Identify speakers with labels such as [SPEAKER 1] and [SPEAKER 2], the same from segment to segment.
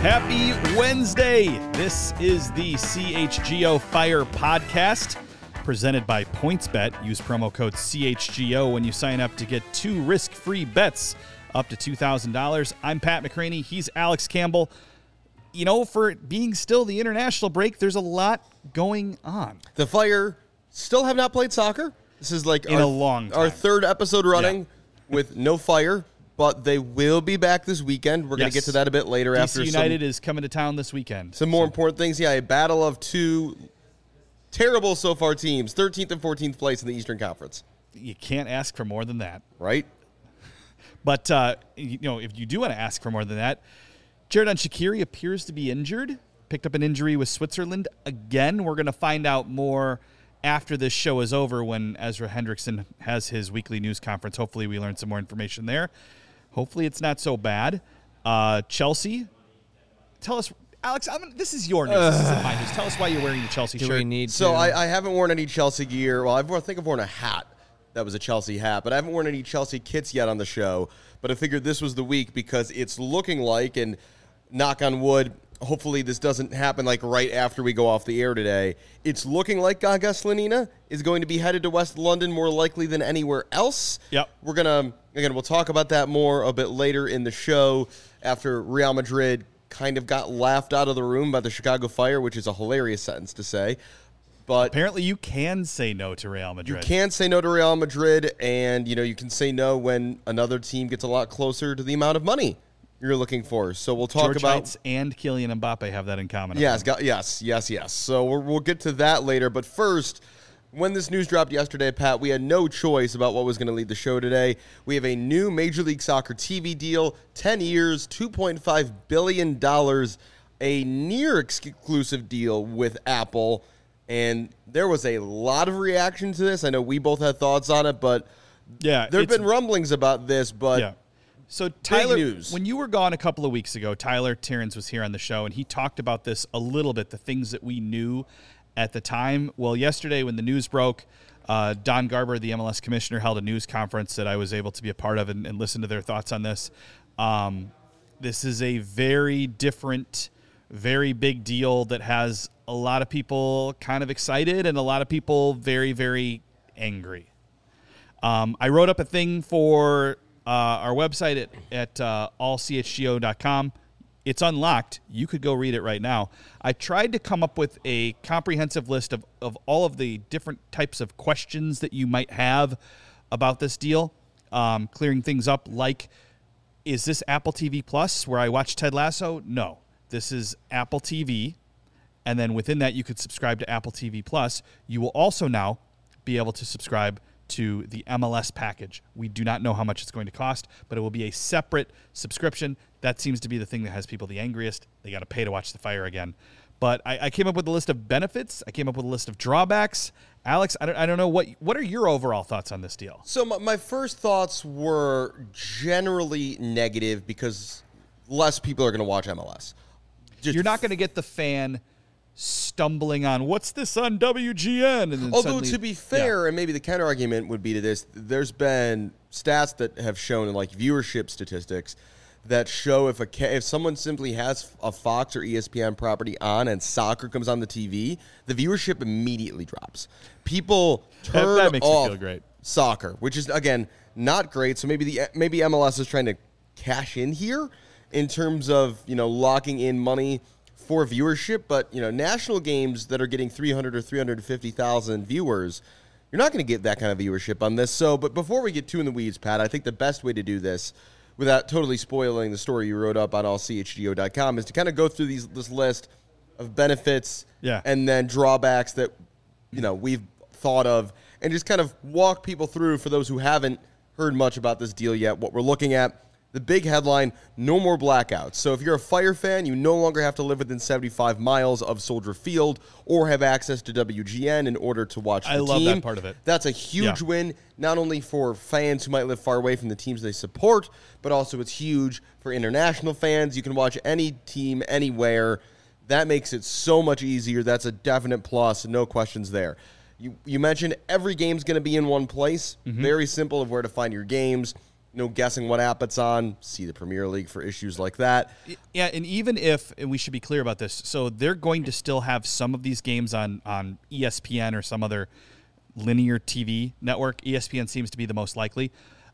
[SPEAKER 1] Happy Wednesday. This is the CHGO Fire Podcast presented by PointsBet. Use promo code CHGO when you sign up to get 2 risk-free bets up to $2,000. I'm Pat McCraney. He's Alex Campbell. You know, for it being still the international break, there's a lot going on.
[SPEAKER 2] The Fire still have not played soccer. This is like
[SPEAKER 1] in a long time.
[SPEAKER 2] Our third episode running with no Fire, but they will be back this weekend. We're going to get to that a bit later.
[SPEAKER 1] DC United is coming to town this weekend.
[SPEAKER 2] Some more important things. Yeah, a battle of 2 terrible so far teams, 13th and 14th place in the Eastern Conference.
[SPEAKER 1] You can't ask for more than that.
[SPEAKER 2] Right?
[SPEAKER 1] But, you know, if you do want to ask for more than that, Xherdan Shaqiri appears to be injured. Picked up an injury with Switzerland again. We're going to find out more after this show is over when Ezra Hendrickson has his weekly news conference. Hopefully we learn some more information there. Hopefully it's not so bad. Chelsea, tell us, Alex, this is your news. This isn't my news. Tell us why you're wearing the Chelsea shirt.
[SPEAKER 3] We need
[SPEAKER 2] so
[SPEAKER 3] to?
[SPEAKER 2] I haven't worn any Chelsea gear. Well, I think I've worn a hat. That was a Chelsea hat, but I haven't worn any Chelsea kits yet on the show. But I figured this was the week because it's looking like, and knock on wood, hopefully this doesn't happen like right after we go off the air today. It's looking like Gaga Slonina is going to be headed to West London more likely than anywhere else.
[SPEAKER 1] Yep.
[SPEAKER 2] We'll talk about that more a bit later in the show after Real Madrid kind of got laughed out of the room by the Chicago Fire, which is a hilarious sentence to say. But
[SPEAKER 1] apparently you can say no to Real Madrid.
[SPEAKER 2] You can say no to Real Madrid, and you can say no when another team gets a lot closer to the amount of money you're looking for. So we'll talk
[SPEAKER 1] George
[SPEAKER 2] about
[SPEAKER 1] Heitz and Kylian Mbappe have that in common.
[SPEAKER 2] Yes. So we'll get to that later. But first, when this news dropped yesterday, Pat, we had no choice about what was going to lead the show today. We have a new Major League Soccer TV deal, 10 years, $2.5 billion, a near exclusive deal with Apple. And there was a lot of reaction to this. I know we both had thoughts on it, but there have been rumblings about this. But
[SPEAKER 1] So Tyler,
[SPEAKER 2] news.
[SPEAKER 1] When you were gone a couple of weeks ago, Tyler Terrence was here on the show, and he talked about this a little bit, the things that we knew at the time. Well, yesterday when the news broke, Don Garber, the MLS commissioner, held a news conference that I was able to be a part of and listen to their thoughts on this. This is a very different, very big deal that has a lot of people kind of excited and a lot of people very, very angry. I wrote up a thing for our website at allchgo.com. It's unlocked. You could go read it right now. I tried to come up with a comprehensive list of all of the different types of questions that you might have about this deal, clearing things up like, is this Apple TV Plus where I watch Ted Lasso? No. This is Apple TV, and then within that you could subscribe to Apple TV Plus. You will also now be able to subscribe to the MLS package. We do not know how much it's going to cost, but it will be a separate subscription. That seems to be the thing that has people the angriest. They got to pay to watch the Fire again. But I came up with a list of benefits. I came up with a list of drawbacks. Alex, I don't know, what are your overall thoughts on this deal?
[SPEAKER 2] So my first thoughts were generally negative because less people are going to watch MLS.
[SPEAKER 1] You're not going to get the fan stumbling on, what's this on WGN? And then
[SPEAKER 2] although,
[SPEAKER 1] suddenly,
[SPEAKER 2] to be fair, and maybe the counter argument would be to this, there's been stats that have shown in like viewership statistics that show if someone simply has a Fox or ESPN property on and soccer comes on the TV, the viewership immediately drops. People turn
[SPEAKER 1] that makes
[SPEAKER 2] off
[SPEAKER 1] me feel great.
[SPEAKER 2] Soccer, which is, again, not great. So maybe MLS is trying to cash in here in terms of, locking in money for viewership. But, national games that are getting 300 or 350,000 viewers, you're not going to get that kind of viewership on this. So, but before we get too in the weeds, Pat, I think the best way to do this, without totally spoiling the story you wrote up on allchgo.com, is to kind of go through this list of benefits and then drawbacks that, we've thought of, and just kind of walk people through, for those who haven't heard much about this deal yet, what we're looking at. The big headline, no more blackouts. So if you're a Fire fan, you no longer have to live within 75 miles of Soldier Field or have access to WGN in order to watch the team.
[SPEAKER 1] I love that part of it.
[SPEAKER 2] That's a huge win, not only for fans who might live far away from the teams they support, but also it's huge for international fans. You can watch any team anywhere. That makes it so much easier. That's a definite plus, no questions there. You mentioned every game's going to be in one place. Mm-hmm. Very simple of where to find your games. guessing what app it's on. See the Premier League for issues like that.
[SPEAKER 1] Yeah, and even if, and we should be clear about this, so they're going to still have some of these games on ESPN or some other linear TV network. ESPN seems to be the most likely.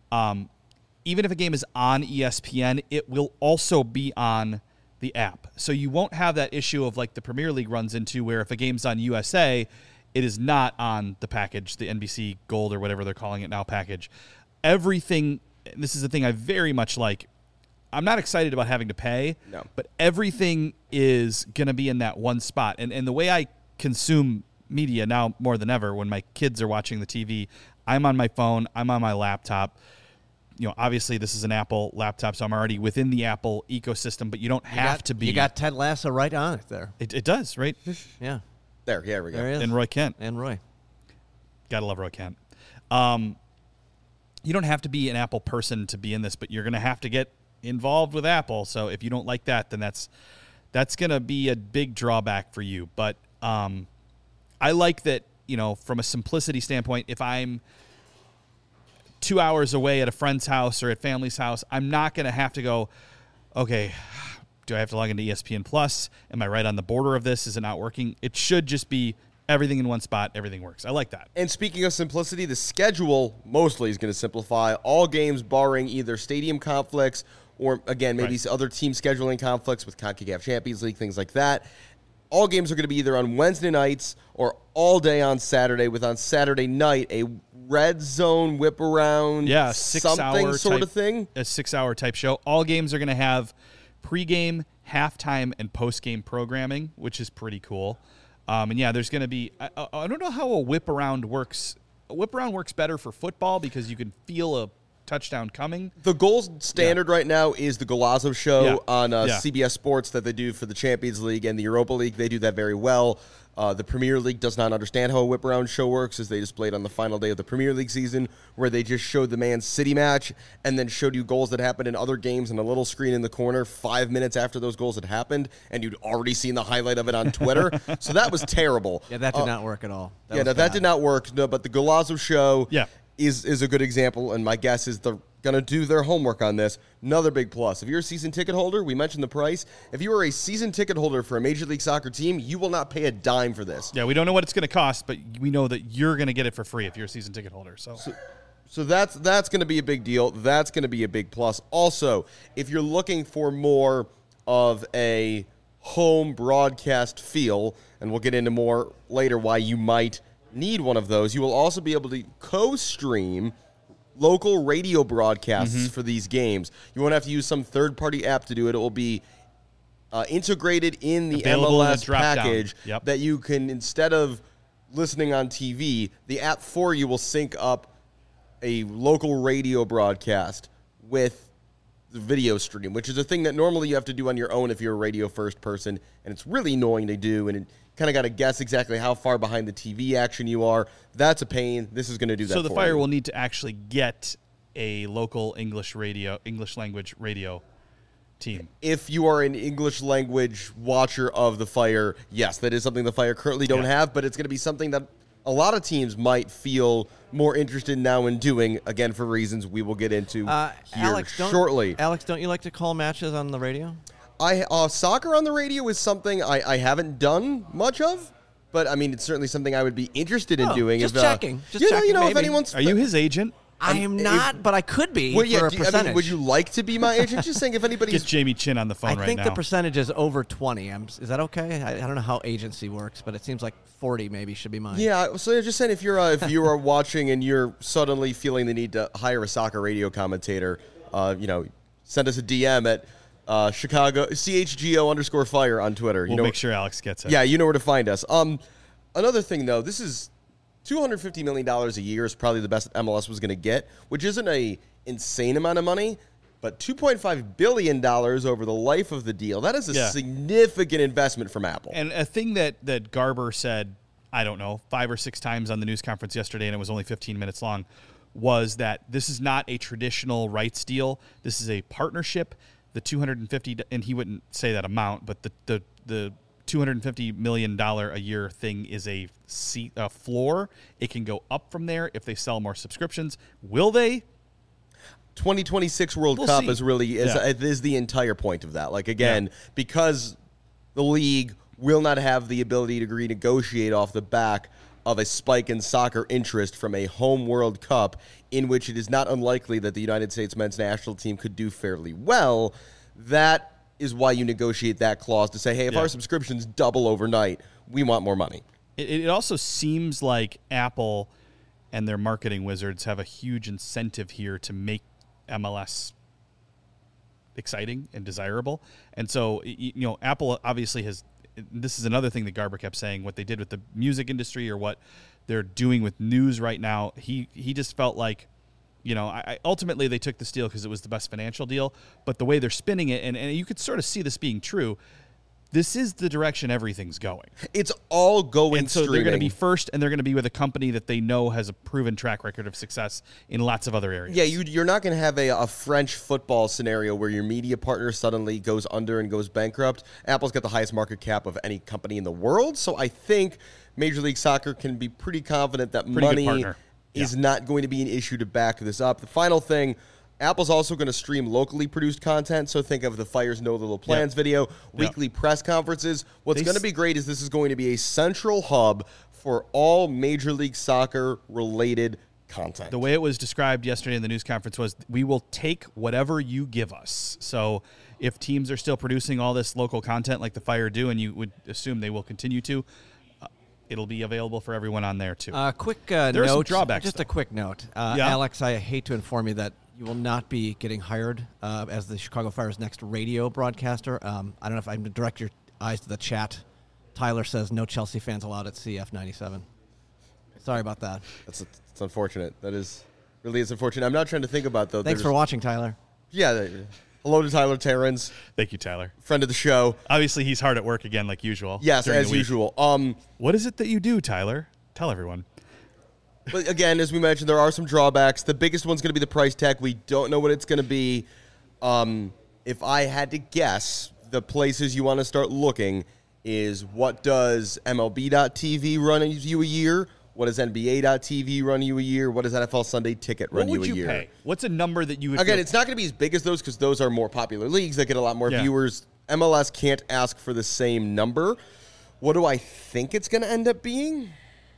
[SPEAKER 1] Even if a game is on ESPN, it will also be on the app. So you won't have that issue of like the Premier League runs into, where if a game's on USA, it is not on the package, the NBC Gold or whatever they're calling it now package. Everything, this is the thing I very much like. I'm not excited about having to pay, but everything is going to be in that one spot. And the way I consume media now more than ever, when my kids are watching the TV, I'm on my phone, I'm on my laptop. Obviously this is an Apple laptop, so I'm already within the Apple ecosystem, but you don't have to be.
[SPEAKER 3] You got Ted Lasso right on it there.
[SPEAKER 1] It does, right?
[SPEAKER 3] Yeah.
[SPEAKER 2] There we go.
[SPEAKER 3] There he is.
[SPEAKER 1] And Roy Kent.
[SPEAKER 3] And Roy.
[SPEAKER 1] Gotta love Roy Kent. You don't have to be an Apple person to be in this, but you're going to have to get involved with Apple. So if you don't like that, then that's going to be a big drawback for you. But I like that, from a simplicity standpoint, if I'm 2 hours away at a friend's house or at family's house, I'm not going to have to go, okay, do I have to log into ESPN Plus? Am I right on the border of this? Is it not working? It should just be everything in one spot. Everything works. I like that.
[SPEAKER 2] And speaking of simplicity, the schedule mostly is going to simplify. All games barring either stadium conflicts or, again, maybe other team scheduling conflicts with CONCACAF Champions League, things like that. All games are going to be either on Wednesday nights or all day on Saturday, with on Saturday night a red zone whip around,
[SPEAKER 1] 6
[SPEAKER 2] something
[SPEAKER 1] hour
[SPEAKER 2] sort
[SPEAKER 1] type,
[SPEAKER 2] of thing.
[SPEAKER 1] A 6 hour type show. All games are going to have pregame, halftime, and postgame programming, which is pretty cool. And there's going to be, I don't know how a whip around works. A whip around works better for football because you can feel a touchdown coming.
[SPEAKER 2] The gold standard right now is the Golazzo show on
[SPEAKER 1] Yeah.
[SPEAKER 2] CBS Sports that they do for the Champions League and the Europa League. They do that very well. The Premier League does not understand how a whip around show works, as they displayed on the final day of the Premier League season, where they just showed the Man City match and then showed you goals that happened in other games on a little screen in the corner 5 minutes after those goals had happened, and you'd already seen the highlight of it on Twitter. So that was terrible.
[SPEAKER 3] Yeah, that did not work at all.
[SPEAKER 2] That did not work. No, but the Golazzo show
[SPEAKER 1] Yeah.
[SPEAKER 2] is a good example, and my guess is they're going to do their homework on this. Another big plus. If you're a season ticket holder, we mentioned the price. If you are a season ticket holder for a Major League Soccer team, you will not pay a dime for this.
[SPEAKER 1] Yeah, we don't know what it's going to cost, but we know that you're going to get it for free if you're a season ticket holder.
[SPEAKER 2] So that's going to be a big deal. That's going to be a big plus. Also, if you're looking for more of a home broadcast feel, and we'll get into more later why you might need one of those, you will also be able to co-stream local radio broadcasts for these games. You won't have to use some third-party app to do it. It will be integrated in the
[SPEAKER 1] Available in
[SPEAKER 2] MLS
[SPEAKER 1] the drop-down.
[SPEAKER 2] package that you can, instead of listening on TV, the app for you will sync up a local radio broadcast with the video stream, which is a thing that normally you have to do on your own if you're a radio first person, and it's really annoying to do, and it kind of got to guess exactly how far behind the TV action you are. That's a pain. This is going to do that
[SPEAKER 1] So the
[SPEAKER 2] for
[SPEAKER 1] Fire
[SPEAKER 2] you.
[SPEAKER 1] will need to actually get a local English language radio team.
[SPEAKER 2] If you are an English language watcher of the Fire, yes, that is something the Fire currently don't have, but it's going to be something that a lot of teams might feel more interested now in doing, again, for reasons we will get into here shortly.
[SPEAKER 3] Alex, don't you like to call matches on the radio?
[SPEAKER 2] Soccer on the radio is something I haven't done much of, but I mean, it's certainly something I would be interested in doing.
[SPEAKER 3] Just
[SPEAKER 2] if,
[SPEAKER 3] checking. Just
[SPEAKER 2] you
[SPEAKER 3] checking,
[SPEAKER 2] know, if
[SPEAKER 3] maybe.
[SPEAKER 2] anyone's...
[SPEAKER 1] Are you his agent?
[SPEAKER 3] I am not, but I could be
[SPEAKER 2] Well, yeah,
[SPEAKER 3] for a percentage.
[SPEAKER 2] would you like to be my agent? Just saying, if anybody's...
[SPEAKER 1] Get Jamie Chin on the phone right now.
[SPEAKER 3] I think the percentage is over 20. Is that okay? I don't know how agency works, but it seems like 40 maybe should be mine.
[SPEAKER 2] Yeah, so just saying, if you are watching and you're suddenly feeling the need to hire a soccer radio commentator, send us a DM at Chicago CHGO_Fire on Twitter.
[SPEAKER 1] We'll make sure Alex gets it.
[SPEAKER 2] Yeah, you know where to find us. Another thing though, this is $250 million a year is probably the best MLS was going to get, which isn't a insane amount of money, but $2.5 billion over the life of the deal. That is a significant investment from Apple.
[SPEAKER 1] And a thing that Garber said, I don't know, 5 or 6 times on the news conference yesterday, and it was only 15 minutes long, was that this is not a traditional rights deal. This is a partnership. The 250, and he wouldn't say that amount, but the $250 million a year thing is a floor. It can go up from there if they sell more subscriptions. Will they?
[SPEAKER 2] 2026 World
[SPEAKER 1] We'll
[SPEAKER 2] Cup
[SPEAKER 1] see.
[SPEAKER 2] is the entire point of that. Like, again, because the league will not have the ability to renegotiate off the back of a spike in soccer interest from a home World Cup, in which it is not unlikely that the United States men's national team could do fairly well. That is why you negotiate that clause to say, hey, if our subscriptions double overnight, we want more money.
[SPEAKER 1] It also seems like Apple and their marketing wizards have a huge incentive here to make MLS exciting and desirable. And so, Apple obviously has, this is another thing that Garber kept saying, what they did with the music industry or what they're doing with news right now. He just felt like, ultimately they took this deal because it was the best financial deal, but the way they're spinning it, and you could sort of see this being true, this is the direction everything's going.
[SPEAKER 2] It's all going
[SPEAKER 1] and so
[SPEAKER 2] streaming.
[SPEAKER 1] they're going to be first, and they're going to be with a company that they know has a proven track record of success in lots of other areas.
[SPEAKER 2] Yeah, you're not going to have a French football scenario where your media partner suddenly goes under and goes bankrupt. Apple's got the highest market cap of any company in the world, so I think Major League Soccer can be pretty confident that money is not going to be an issue to back this up. The final thing, Apple's also going to stream locally produced content, so think of the Fires No Little Plans video, weekly press conferences. What's going to be great is this is going to be a central hub for all Major League Soccer-related content.
[SPEAKER 1] The way it was described yesterday in the news conference was, we will take whatever you give us. So if teams are still producing all this local content like the Fire do, and you would assume they will continue to, it'll be available for everyone on there too.
[SPEAKER 3] Quick
[SPEAKER 1] there
[SPEAKER 3] note,
[SPEAKER 1] are some drawbacks,
[SPEAKER 3] just
[SPEAKER 1] though.
[SPEAKER 3] a quick note. Alex, I hate to inform you that you will not be getting hired as the Chicago Fire's next radio broadcaster. I don't know if I'm to direct your eyes to the chat. Tyler says no Chelsea fans allowed at CF97. Sorry about that.
[SPEAKER 2] It's unfortunate. That is really is unfortunate. I'm not trying to think about, though.
[SPEAKER 3] Thanks for watching, Tyler.
[SPEAKER 2] Yeah. Hello to Tyler Terrens,
[SPEAKER 1] Thank you, Tyler.
[SPEAKER 2] friend of the show.
[SPEAKER 1] Obviously, he's hard at work again, like usual.
[SPEAKER 2] Yes,
[SPEAKER 1] during
[SPEAKER 2] as
[SPEAKER 1] the week.
[SPEAKER 2] usual.
[SPEAKER 1] What is it that you do, Tyler? Tell everyone.
[SPEAKER 2] But again, as we mentioned, there are some drawbacks. The biggest one's going to be the price tag. We don't know what it's going to be. If I had to guess, the places you want to start looking is, what does MLB.TV run you a year? What does NBA.TV run you a year? What does NFL Sunday Ticket run you a year?
[SPEAKER 1] What would you pay? What's a number that you would
[SPEAKER 2] Again,
[SPEAKER 1] feel-
[SPEAKER 2] it's not going to be as big as those because those are more popular leagues that get a lot more viewers. MLS can't ask for the same number. What do I think it's going to end up being?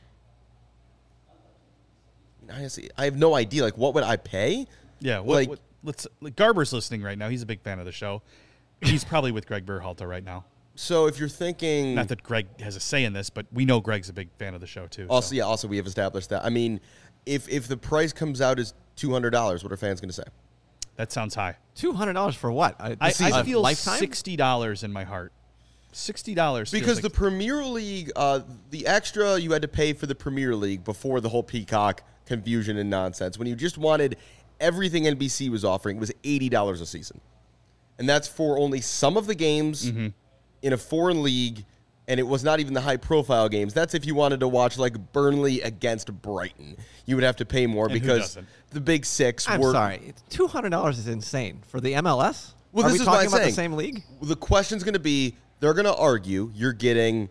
[SPEAKER 2] Honestly, I have no idea. Like, what would I pay?
[SPEAKER 1] Yeah, let's. Garber's listening right now. He's a big fan of the show. He's probably with Greg Berhalter right now.
[SPEAKER 2] So if you're thinking,
[SPEAKER 1] Not that Greg has a say in this, but we know Greg's a big fan of the show too.
[SPEAKER 2] also,
[SPEAKER 1] so.
[SPEAKER 2] also we have established that. I mean, if the price comes out as $200, what are fans going to say?
[SPEAKER 1] That sounds high.
[SPEAKER 3] $200 for what?
[SPEAKER 1] I feel
[SPEAKER 3] lifetime?
[SPEAKER 1] $60 in my heart. $60
[SPEAKER 2] Because
[SPEAKER 1] feels
[SPEAKER 2] the Premier League, the extra you had to pay for the Premier League before the whole Peacock confusion and nonsense, when you just wanted everything NBC was offering, was $80 a season. And that's for only some of the games in a foreign league, and it was not even the high-profile games. That's if you wanted to watch, like, Burnley against Brighton. You would have to pay more
[SPEAKER 1] And who
[SPEAKER 2] because
[SPEAKER 1] doesn't?
[SPEAKER 2] the Big Six
[SPEAKER 3] I'm
[SPEAKER 2] were...
[SPEAKER 3] sorry. $200 is insane. For the MLS?
[SPEAKER 2] Well,
[SPEAKER 3] Are
[SPEAKER 2] this
[SPEAKER 3] we
[SPEAKER 2] is what
[SPEAKER 3] talking
[SPEAKER 2] I'm
[SPEAKER 3] about
[SPEAKER 2] saying.
[SPEAKER 3] the same league?
[SPEAKER 2] The question's going to be, they're going to argue you're getting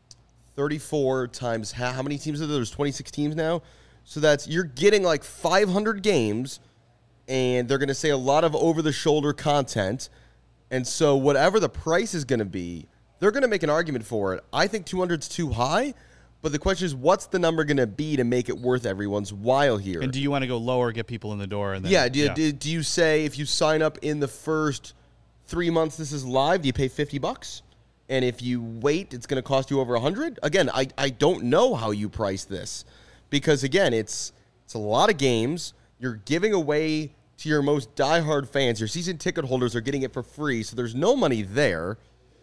[SPEAKER 2] 34 times how many teams are there? There's 26 teams now. So you're getting like 500 games, and they're going to say a lot of over-the-shoulder content. And so whatever the price is going to be, they're going to make an argument for it. I think 200 is too high, but the question is, what's the number going to be to make it worth everyone's while here?
[SPEAKER 1] And do you want to go lower, get people in the door? And then,
[SPEAKER 2] Do you say if you sign up in the first 3 months this is live, do you pay $50? And if you wait, it's going to cost you over $100? Again, I don't know how you price this because, again, it's a lot of games. You're giving away to your most diehard fans. Your season ticket holders are getting it for free, so there's no money there.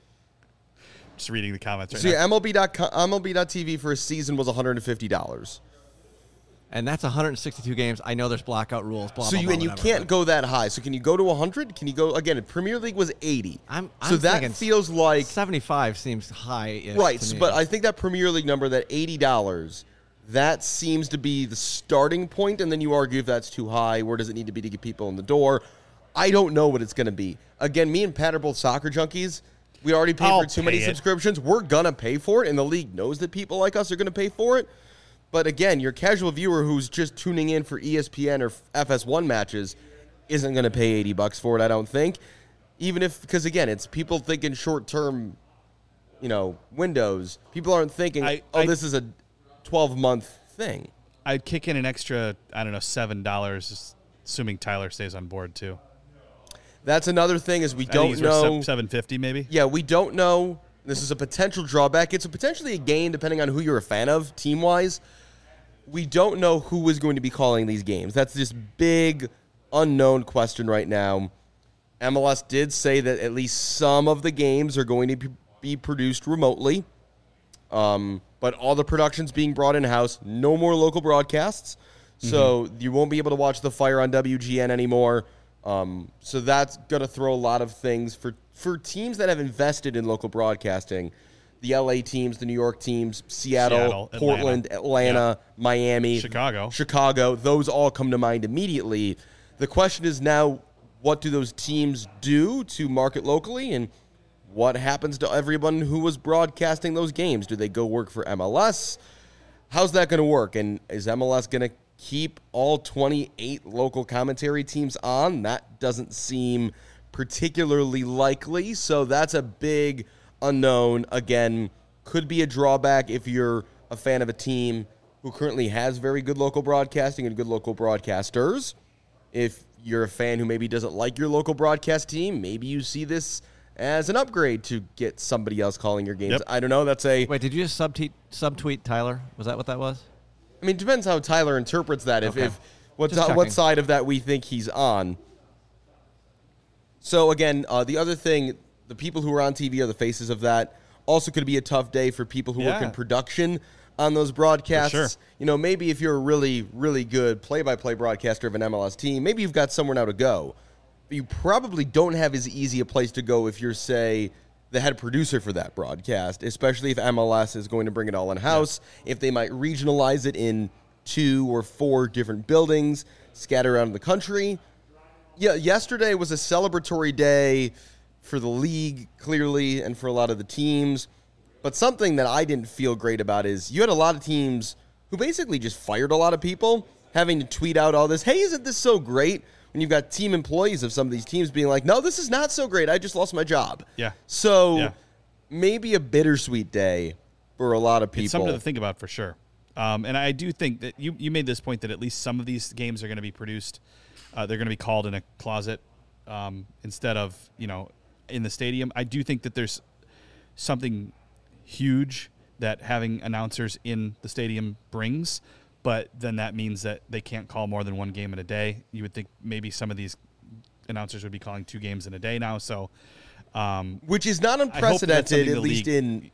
[SPEAKER 1] Just reading the comments right
[SPEAKER 2] So,
[SPEAKER 1] now.
[SPEAKER 2] MLB.TV for a season was $150.
[SPEAKER 3] And that's 162 games. I know there's blackout rules, blah,
[SPEAKER 2] So
[SPEAKER 3] blah, blah,
[SPEAKER 2] you
[SPEAKER 3] whatever,
[SPEAKER 2] can't
[SPEAKER 3] but
[SPEAKER 2] go that high. So can you go to 100? Can you go again? Premier League was 80.
[SPEAKER 3] I'm
[SPEAKER 2] so that
[SPEAKER 3] thinking
[SPEAKER 2] feels like
[SPEAKER 3] 75 seems high.
[SPEAKER 2] right.
[SPEAKER 3] To me.
[SPEAKER 2] But I think that Premier League number, that $80, that seems to be the starting point. And then you argue if that's too high. Where does it need to be to get people in the door? I don't know what it's going to be. Again, me and Pat are both soccer junkies. We already paid for too many subscriptions. We're going to pay for it, and the league knows that people like us are going to pay for it. But again, your casual viewer who's just tuning in for ESPN or FS1 matches, isn't going to pay $80 for it, I don't think. Even if, because again, it's people thinking short-term, windows. People aren't thinking, this is a 12-month thing.
[SPEAKER 1] I'd kick in an extra, I don't know, $7, assuming Tyler stays on board too.
[SPEAKER 2] That's another thing is we don't know.
[SPEAKER 1] $7.50 maybe.
[SPEAKER 2] Yeah, we don't know. This is a potential drawback. It's potentially a gain depending on who you're a fan of, team-wise. We don't know who is going to be calling these games. That's this big unknown question right now. MLS did say that at least some of the games are going to be produced remotely, but all the production's being brought in-house. No more local broadcasts, so you won't be able to watch the Fire on WGN anymore. So that's going to throw a lot of things for teams that have invested in local broadcasting. The LA teams, the New York teams, Seattle, Portland, Atlanta, Miami, Chicago, those all come to mind immediately. The question is now, what do those teams do to market locally, and what happens to everyone who was broadcasting those games? Do they go work for MLS? How's that going to work? And is MLS going to keep all 28 local commentary teams on? That doesn't seem particularly likely, so that's a big unknown. Again, could be a drawback if you're a fan of a team who currently has very good local broadcasting and good local broadcasters. If you're a fan who maybe doesn't like your local broadcast team, maybe you see this as an upgrade to get somebody else calling your games. Yep. I don't know. Wait,
[SPEAKER 3] did you just subtweet Tyler? Was that what that was?
[SPEAKER 2] I mean, it depends how Tyler interprets that.
[SPEAKER 3] Okay.
[SPEAKER 2] If what side of that we think he's on. So again, the other thing, the people who are on TV are the faces of that. Also could be a tough day for people who work in production on those broadcasts.
[SPEAKER 1] For sure.
[SPEAKER 2] Maybe if you're a really, really good play-by-play broadcaster of an MLS team, maybe you've got somewhere now to go. But you probably don't have as easy a place to go if you're, say, the head producer for that broadcast, especially if MLS is going to bring it all in-house, if they might regionalize it in 2 or 4 different buildings scattered around the country. Yeah, yesterday was a celebratory day for the league, clearly, and for a lot of the teams. But something that I didn't feel great about is you had a lot of teams who basically just fired a lot of people, having to tweet out all this, hey, isn't this so great? When you've got team employees of some of these teams being like, no, this is not so great. I just lost my job.
[SPEAKER 1] Yeah.
[SPEAKER 2] So maybe a bittersweet day for a lot of people.
[SPEAKER 1] It's something to think about for sure. And I do think that you made this point that at least some of these games are going to be produced. They're going to be called in a closet instead of, in the stadium. I do think that there's something huge that having announcers in the stadium brings, but then that means that they can't call more than one game in a day. You would think maybe some of these announcers would be calling 2 games in a day now. So,
[SPEAKER 2] which is not unprecedented, at least in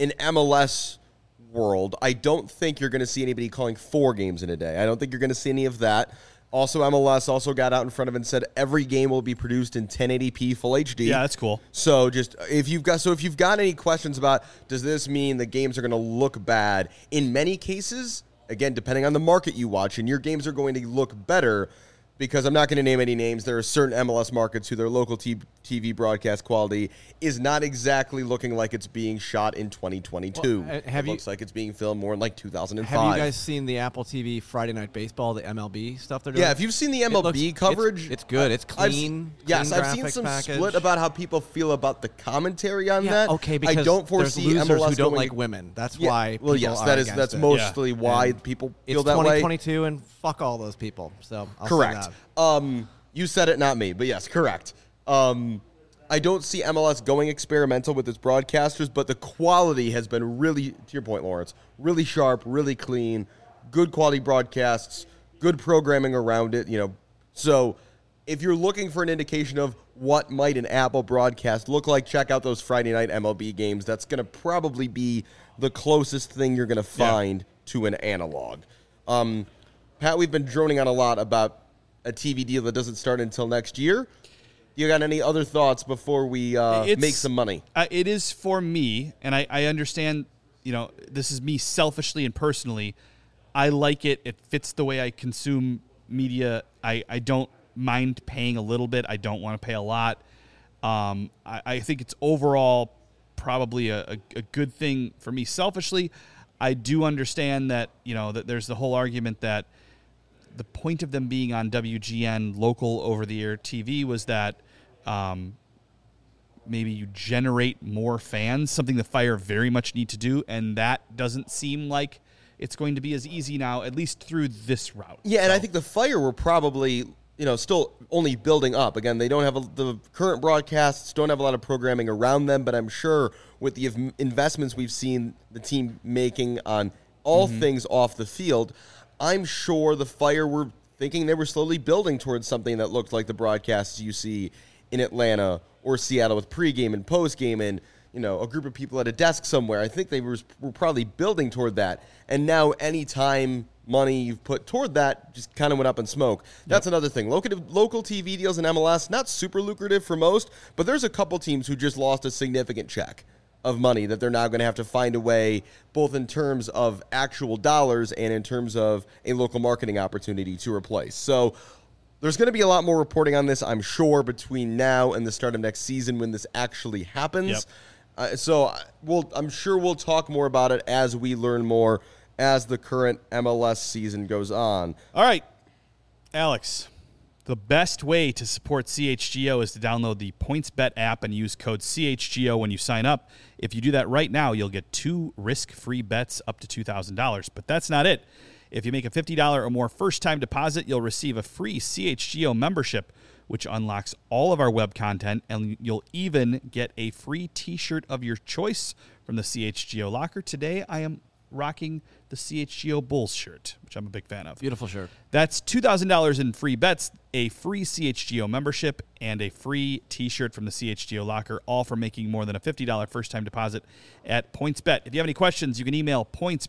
[SPEAKER 2] MLS world. I don't think you're going to see anybody calling 4 games in a day. I don't think you're going to see any of that. Also, MLS also got out in front of it and said every game will be produced in 1080p full HD.
[SPEAKER 1] Yeah, that's cool.
[SPEAKER 2] So if you've got any questions about does this mean the games are going to look bad? In many cases, again, depending on the market you watch, and your games are going to look better because I'm not going to name any names. There are certain MLS markets who their local TV broadcast quality is not exactly looking like it's being shot in 2022. Well, it looks like it's being filmed more in like 2005.
[SPEAKER 3] Have you guys seen the Apple TV Friday Night Baseball, the MLB stuff they're doing?
[SPEAKER 2] Yeah, if you've seen the MLB coverage.
[SPEAKER 3] It's good. It's clean.
[SPEAKER 2] I've seen some split about how people feel about the commentary on that.
[SPEAKER 3] Okay, because
[SPEAKER 2] I don't foresee
[SPEAKER 3] there's losers
[SPEAKER 2] MLS
[SPEAKER 3] who don't like women. That's why people
[SPEAKER 2] that's
[SPEAKER 3] it.
[SPEAKER 2] mostly why people feel that way.
[SPEAKER 3] It's 2022 and fuck all those people. So I'll
[SPEAKER 2] correct.
[SPEAKER 3] Say that.
[SPEAKER 2] You said it, not me, but yes, correct. I don't see MLS going experimental with its broadcasters, but the quality has been really, to your point, Lawrence, really sharp, really clean, good quality broadcasts, good programming around it, So if you're looking for an indication of what might an Apple broadcast look like, check out those Friday night MLB games. That's going to probably be the closest thing you're going to find to an analog. Pat, we've been droning on a lot about a TV deal that doesn't start until next year. You got any other thoughts before we make some money?
[SPEAKER 1] It is for me, and I understand, this is me selfishly and personally. I like it. It fits the way I consume media. I don't mind paying a little bit. I don't want to pay a lot. I think it's overall probably a good thing for me selfishly. I do understand that, that there's the whole argument that the point of them being on WGN local over-the-air TV was that maybe you generate more fans, something the Fire very much need to do, and that doesn't seem like it's going to be as easy now, at least through this route.
[SPEAKER 2] Yeah, and I think the Fire were probably, still only building up. Again, they don't have the current broadcasts, don't have a lot of programming around them, but I'm sure with the investments we've seen the team making on all things off the field, I'm sure the Fire were thinking they were slowly building towards something that looked like the broadcasts you see in Atlanta or Seattle with pregame and postgame and, a group of people at a desk somewhere. I think they were probably building toward that. And now any time money you've put toward that just kind of went up in smoke. That's another thing. Local TV deals in MLS, not super lucrative for most, but there's a couple teams who just lost a significant check of money that they're now going to have to find a way, both in terms of actual dollars and in terms of a local marketing opportunity to replace. So there's going to be a lot more reporting on this, I'm sure, between now and the start of next season when this actually happens. So I'm sure we'll talk more about it as we learn more as the current MLS season goes on.
[SPEAKER 1] All right, Alex, the best way to support CHGO is to download the PointsBet app and use code CHGO when you sign up. If you do that right now, you'll get 2 risk-free bets up to $2,000. But that's not it. If you make a $50 or more first-time deposit, you'll receive a free CHGO membership, which unlocks all of our web content, and you'll even get a free T-shirt of your choice from the CHGO locker. Today, I am rocking the CHGO Bulls shirt, which I'm a big fan of.
[SPEAKER 3] Beautiful shirt.
[SPEAKER 1] That's $2,000 in free bets, a free CHGO membership, and a free T-shirt from the CHGO locker, all for making more than a $50 first-time deposit at PointsBet. If you have any questions, you can email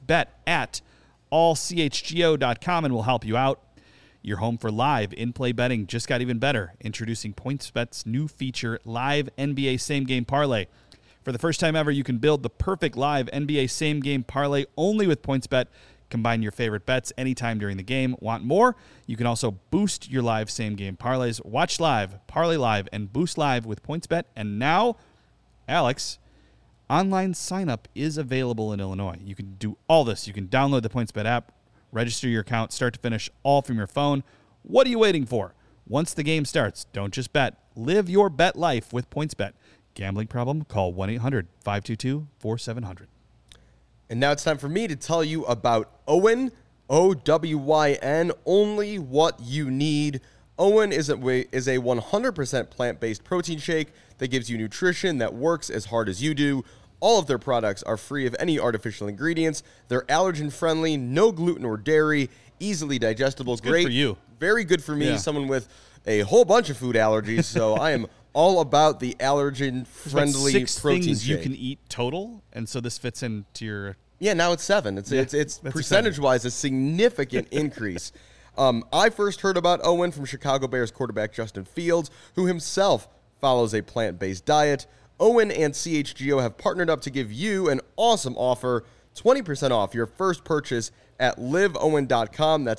[SPEAKER 1] pointsbet@allchgo.com, and we'll help you out. Your home for live in-play betting just got even better. Introducing PointsBet's new feature, Live NBA Same Game Parlay. For the first time ever, you can build the perfect live NBA Same Game Parlay only with PointsBet. Combine your favorite bets anytime during the game. Want more? You can also boost your live Same Game Parlays. Watch live, parlay live, and boost live with PointsBet. And now, Alex, online sign-up is available in Illinois. You can do all this. You can download the PointsBet app, register your account, start to finish, all from your phone. What are you waiting for? Once the game starts, don't just bet. Live your bet life with PointsBet. Gambling problem? Call 1-800-522-4700.
[SPEAKER 2] And now it's time for me to tell you about OWYN, OWYN, only what you need. OWYN is a 100% plant-based protein shake that gives you nutrition that works as hard as you do. All of their products are free of any artificial ingredients. They're allergen-friendly, no gluten or dairy, easily digestible.
[SPEAKER 1] It's great for you.
[SPEAKER 2] Very good for me,
[SPEAKER 1] Yeah.
[SPEAKER 2] someone with a whole bunch of food allergies. So I am all about the allergen-friendly
[SPEAKER 1] There's like 6
[SPEAKER 2] protein
[SPEAKER 1] things
[SPEAKER 2] shake.
[SPEAKER 1] you can eat total, and so this fits into your...
[SPEAKER 2] Yeah, now it's 7. It's
[SPEAKER 1] that's
[SPEAKER 2] percentage-wise a significant increase. I first heard about OWYN from Chicago Bears quarterback Justin Fields, who himself follows a plant-based diet. OWYN and CHGO have partnered up to give you an awesome offer, 20% off your first purchase at liveowyn.com. That's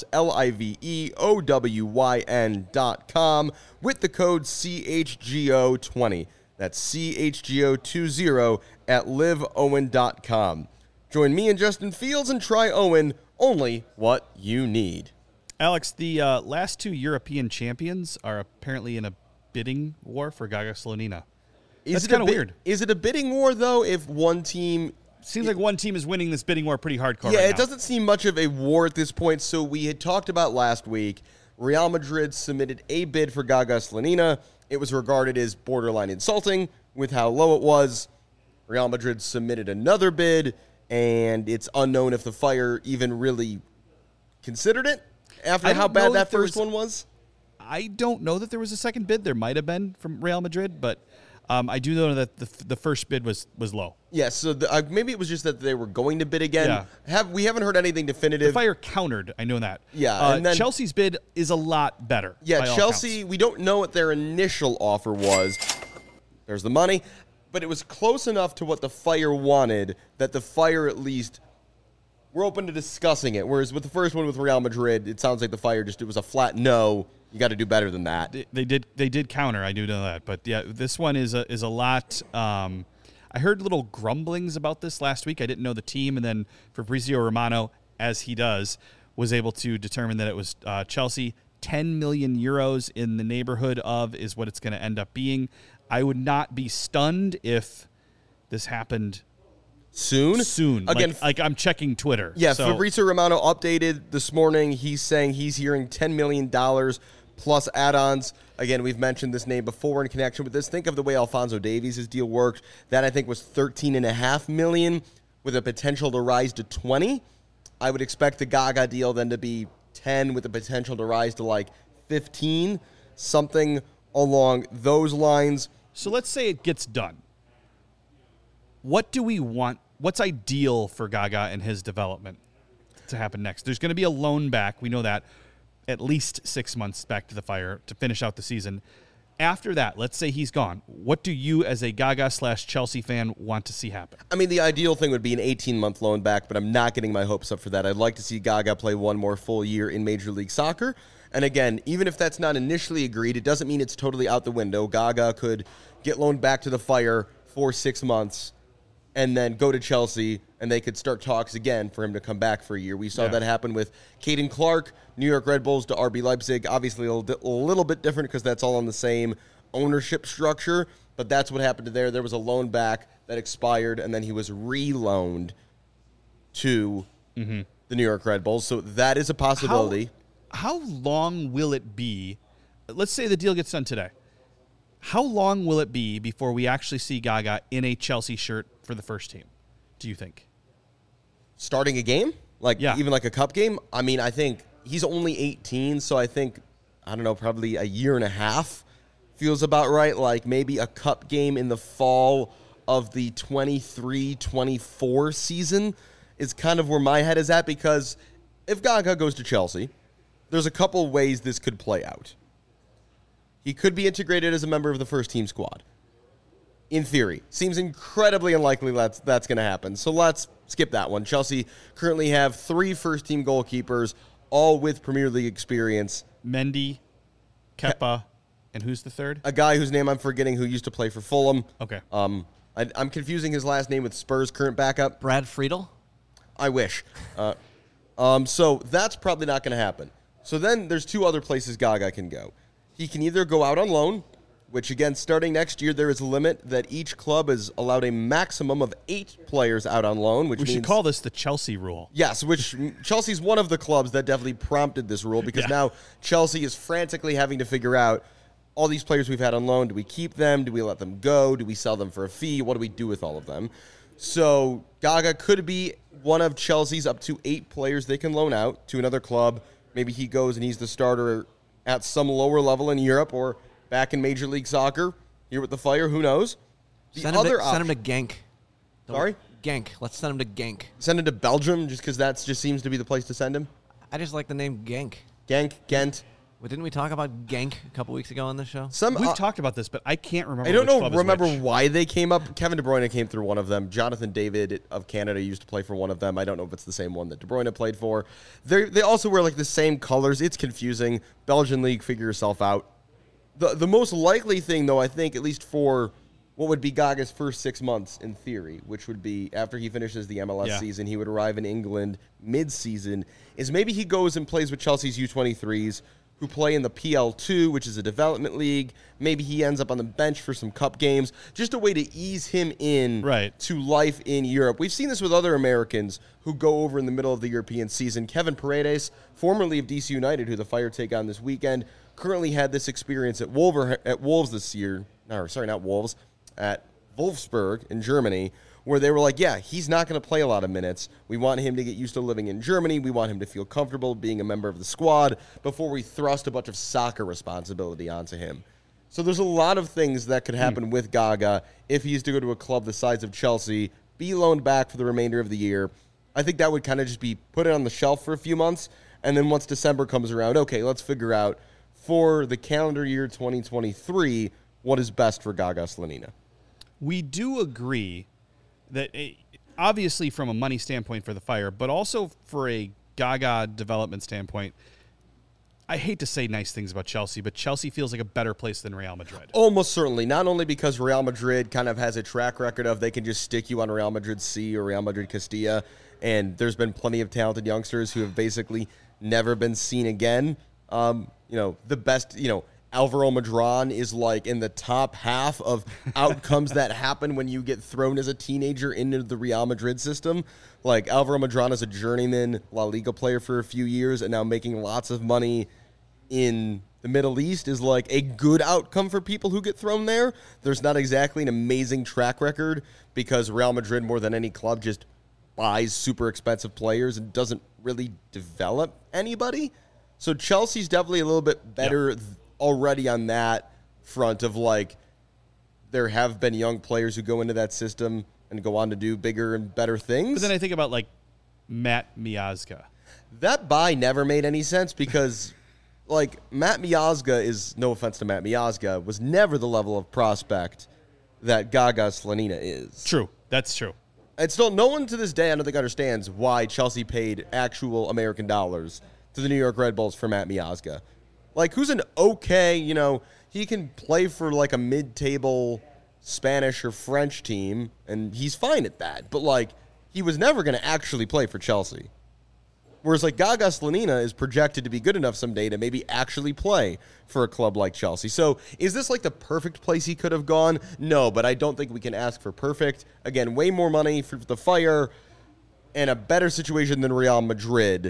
[SPEAKER 2] LIVEOWYN.com with the code CHGO20. That's CHGO20 at liveowyn.com. Join me and Justin Fields and try OWYN, only what you need.
[SPEAKER 1] Alex, the last 2 European champions are apparently in a bidding war for Gaga Slonina. That's kind of weird.
[SPEAKER 2] Is it a bidding war, though, if one team...
[SPEAKER 1] Seems like one team is winning this bidding war pretty hardcore
[SPEAKER 2] Yeah,
[SPEAKER 1] right
[SPEAKER 2] it
[SPEAKER 1] now.
[SPEAKER 2] doesn't seem much of a war at this point. So we had talked about last week, Real Madrid submitted a bid for Gaga Slonina. It was regarded as borderline insulting with how low it was. Real Madrid submitted another bid, and it's unknown if the Fire even really considered it after how bad that first one was.
[SPEAKER 1] I don't know that there was a second bid. There might have been from Real Madrid, but I do know that the first bid was low.
[SPEAKER 2] Yeah, so maybe it was just that they were going to bid again.
[SPEAKER 1] Yeah.
[SPEAKER 2] We haven't heard anything definitive.
[SPEAKER 1] The Fire countered. I know that.
[SPEAKER 2] Yeah, and then
[SPEAKER 1] Chelsea's bid is a lot better.
[SPEAKER 2] Yeah,
[SPEAKER 1] by all
[SPEAKER 2] Chelsea,
[SPEAKER 1] counts.
[SPEAKER 2] we don't know what their initial offer was. There's the money. But it was close enough to what the Fire wanted that the Fire at least were open to discussing it. Whereas with the first one with Real Madrid, it sounds like the Fire it was a flat no. You got to do better than that.
[SPEAKER 1] They did counter. I do know that, but yeah, this one is a lot. I heard little grumblings about this last week. I didn't know the team, and then Fabrizio Romano, as he does, was able to determine that it was Chelsea. 10 million euros in the neighborhood of is what it's going to end up being. I would not be stunned if this happened
[SPEAKER 2] soon.
[SPEAKER 1] Again, like I'm checking Twitter.
[SPEAKER 2] Yeah,
[SPEAKER 1] so.
[SPEAKER 2] Fabrizio Romano updated this morning. He's saying he's hearing $10 million plus add-ons. Again, we've mentioned this name before in connection with this. Think of the way Alphonso Davies' deal worked. That, I think, was $13.5 million with a potential to rise to 20. I would expect the Gaga deal then to be 10 with the potential to rise to like 15, something along those lines.
[SPEAKER 1] So let's say it gets done. What do we want? What's ideal for Gaga and his development to happen next? There's going to be a loan back. We know that. At least 6 months back to the Fire to finish out the season. After that, let's say he's gone. What do you, as a Gaga/Chelsea fan, want to see happen?
[SPEAKER 2] I mean, the ideal thing would be an 18-month loan back, but I'm not getting my hopes up for that. I'd like to see Gaga play one more full year in Major League Soccer. And again, even if that's not initially agreed, it doesn't mean it's totally out the window. Gaga could get loaned back to the Fire for 6 months and then go to Chelsea, and they could start talks again for him to come back for a year. We saw that happen with Caden Clark, New York Red Bulls to RB Leipzig. Obviously, a little bit different because that's all on the same ownership structure, but that's what happened there. There was a loan back that expired, and then he was re-loaned to the New York Red Bulls. So that is a possibility.
[SPEAKER 1] How long will it be? Let's say the deal gets done today. How long will it be before we actually see Gaga in a Chelsea shirt for the first team, do you think?
[SPEAKER 2] Starting a game? Even like a cup game? I mean, I think he's only 18, so I think, I don't know, probably a year and a half feels about right. Like maybe a cup game in the fall of the 23-24 season is kind of where my head is at, because if Gaga goes to Chelsea, there's a couple ways this could play out. He could be integrated as a member of the first team squad. In theory. Seems incredibly unlikely that's going to happen. So let's skip that one. Chelsea currently have 3 first-team goalkeepers, all with Premier League experience.
[SPEAKER 1] Mendy, Kepa, and who's the third?
[SPEAKER 2] A guy whose name I'm forgetting who used to play for Fulham.
[SPEAKER 1] Okay.
[SPEAKER 2] I'm confusing his last name with Spurs' current backup.
[SPEAKER 3] Brad Friedel?
[SPEAKER 2] I wish. So that's probably not going to happen. So then there's 2 other places Gaga can go. He can either go out on loan, which, again, starting next year, there is a limit that each club is allowed a maximum of 8 players out on loan, which
[SPEAKER 1] we should call this the Chelsea rule.
[SPEAKER 2] Yes, which Chelsea's one of the clubs that definitely prompted this rule, because now Chelsea is frantically having to figure out all these players we've had on loan. Do we keep them? Do we let them go? Do we sell them for a fee? What do we do with all of them? So Gaga could be one of Chelsea's up to 8 players they can loan out to another club. Maybe he goes and he's the starter at some lower level in Europe or back in Major League Soccer here with the Fire. Who knows?
[SPEAKER 3] Send him to Genk.
[SPEAKER 2] Sorry?
[SPEAKER 3] Genk. Let's send him to Genk.
[SPEAKER 2] Send him to Belgium just because that just seems to be the place to send him?
[SPEAKER 3] I just like the name Genk.
[SPEAKER 2] Ghent.
[SPEAKER 3] Well, didn't we talk about Genk a couple weeks ago on this show?
[SPEAKER 1] We've talked about this, but I can't remember.
[SPEAKER 2] I don't
[SPEAKER 1] which
[SPEAKER 2] remember
[SPEAKER 1] which.
[SPEAKER 2] why they came up. Kevin De Bruyne came through one of them. Jonathan David of Canada used to play for one of them. I don't know if it's the same one that De Bruyne played for. They also wear like the same colors. It's confusing. Belgian league, figure yourself out. The most likely thing, though, I think, at least for what would be Gaga's first 6 months in theory, which would be after he finishes the MLS season, he would arrive in England mid-season, is maybe he goes and plays with Chelsea's U23s, who play in the PL2, which is a development league. Maybe he ends up on the bench for some cup games. Just a way to ease him in to life in Europe. We've seen this with other Americans who go over in the middle of the European season. Kevin Paredes, formerly of DC United, who the Fire take on this weekend, currently had this experience at Wolves this year. Not Wolves, at Wolfsburg in Germany, where they were like, yeah, he's not going to play a lot of minutes. We want him to get used to living in Germany. We want him to feel comfortable being a member of the squad before we thrust a bunch of soccer responsibility onto him. So there's a lot of things that could happen with Gaga if he's to go to a club the size of Chelsea, be loaned back for the remainder of the year. I think that would kind of just be put it on the shelf for a few months, and then once December comes around, okay, let's figure out for the calendar year 2023 what is best for Gaga Slonina.
[SPEAKER 1] We do agree that obviously from a money standpoint for the Fire, but also for a Gaga development standpoint, I hate to say nice things about Chelsea, but Chelsea feels like a better place than Real Madrid.
[SPEAKER 2] Almost certainly. Not only because Real Madrid kind of has a track record of they can just stick you on Real Madrid C or Real Madrid Castilla, and there's been plenty of talented youngsters who have basically never been seen again. The best, Alvaro Madron is like in the top half of outcomes that happen when you get thrown as a teenager into the Real Madrid system. Like Alvaro Madron is a journeyman La Liga player for a few years and now making lots of money in the Middle East is like a good outcome for people who get thrown there. There's not exactly an amazing track record because Real Madrid, more than any club, just buys super expensive players and doesn't really develop anybody. So Chelsea's definitely a little bit better already on that front of like there have been young players who go into that system and go on to do bigger and better things.
[SPEAKER 1] But then I think about like Matt Miazga.
[SPEAKER 2] That buy never made any sense because like Matt Miazga is, no offense to Matt Miazga, was never the level of prospect that Gaga Slonina is.
[SPEAKER 1] True. That's true.
[SPEAKER 2] And still, no one to this day, I don't think, understands why Chelsea paid actual American dollars to the New York Red Bulls for Matt Miazga. Like, who's an okay, he can play for like a mid-table Spanish or French team, and he's fine at that. But, like, he was never going to actually play for Chelsea. Whereas, like, Gaga Slonina is projected to be good enough someday to maybe actually play for a club like Chelsea. So, is this, like, the perfect place he could have gone? No, but I don't think we can ask for perfect. Again, way more money for the Fire and a better situation than Real Madrid.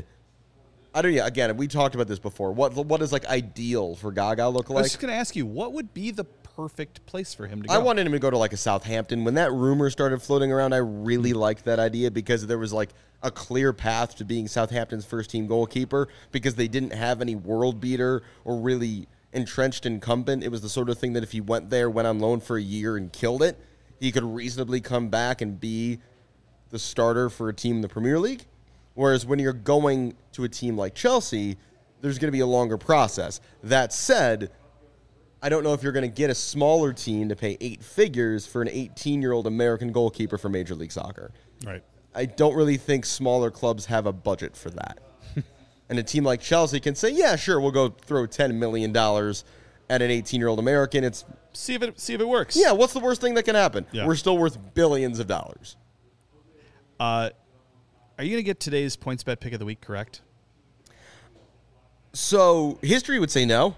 [SPEAKER 2] Again, we talked about this before. What does, like, ideal for Gaga look like?
[SPEAKER 1] I was just going to ask you, what would be the perfect place for him to go?
[SPEAKER 2] I wanted him to go to, like, a Southampton. When that rumor started floating around, I really liked that idea because there was, like, a clear path to being Southampton's first-team goalkeeper because they didn't have any world beater or really entrenched incumbent. It was the sort of thing that if he went there, went on loan for a year and killed it, he could reasonably come back and be the starter for a team in the Premier League. Whereas when you're going to a team like Chelsea, there's going to be a longer process. That said, I don't know if you're going to get a smaller team to pay 8 figures for an 18-year-old American goalkeeper for Major League Soccer.
[SPEAKER 1] Right.
[SPEAKER 2] I don't really think smaller clubs have a budget for that. And a team like Chelsea can say, yeah, sure, we'll go throw $10 million at an 18-year-old American. It's
[SPEAKER 1] see if it works.
[SPEAKER 2] Yeah, what's the worst thing that can happen?
[SPEAKER 1] Yeah.
[SPEAKER 2] We're still worth billions of dollars.
[SPEAKER 1] Are you going to get today's PointsBet pick of the week correct?
[SPEAKER 2] So history would say no.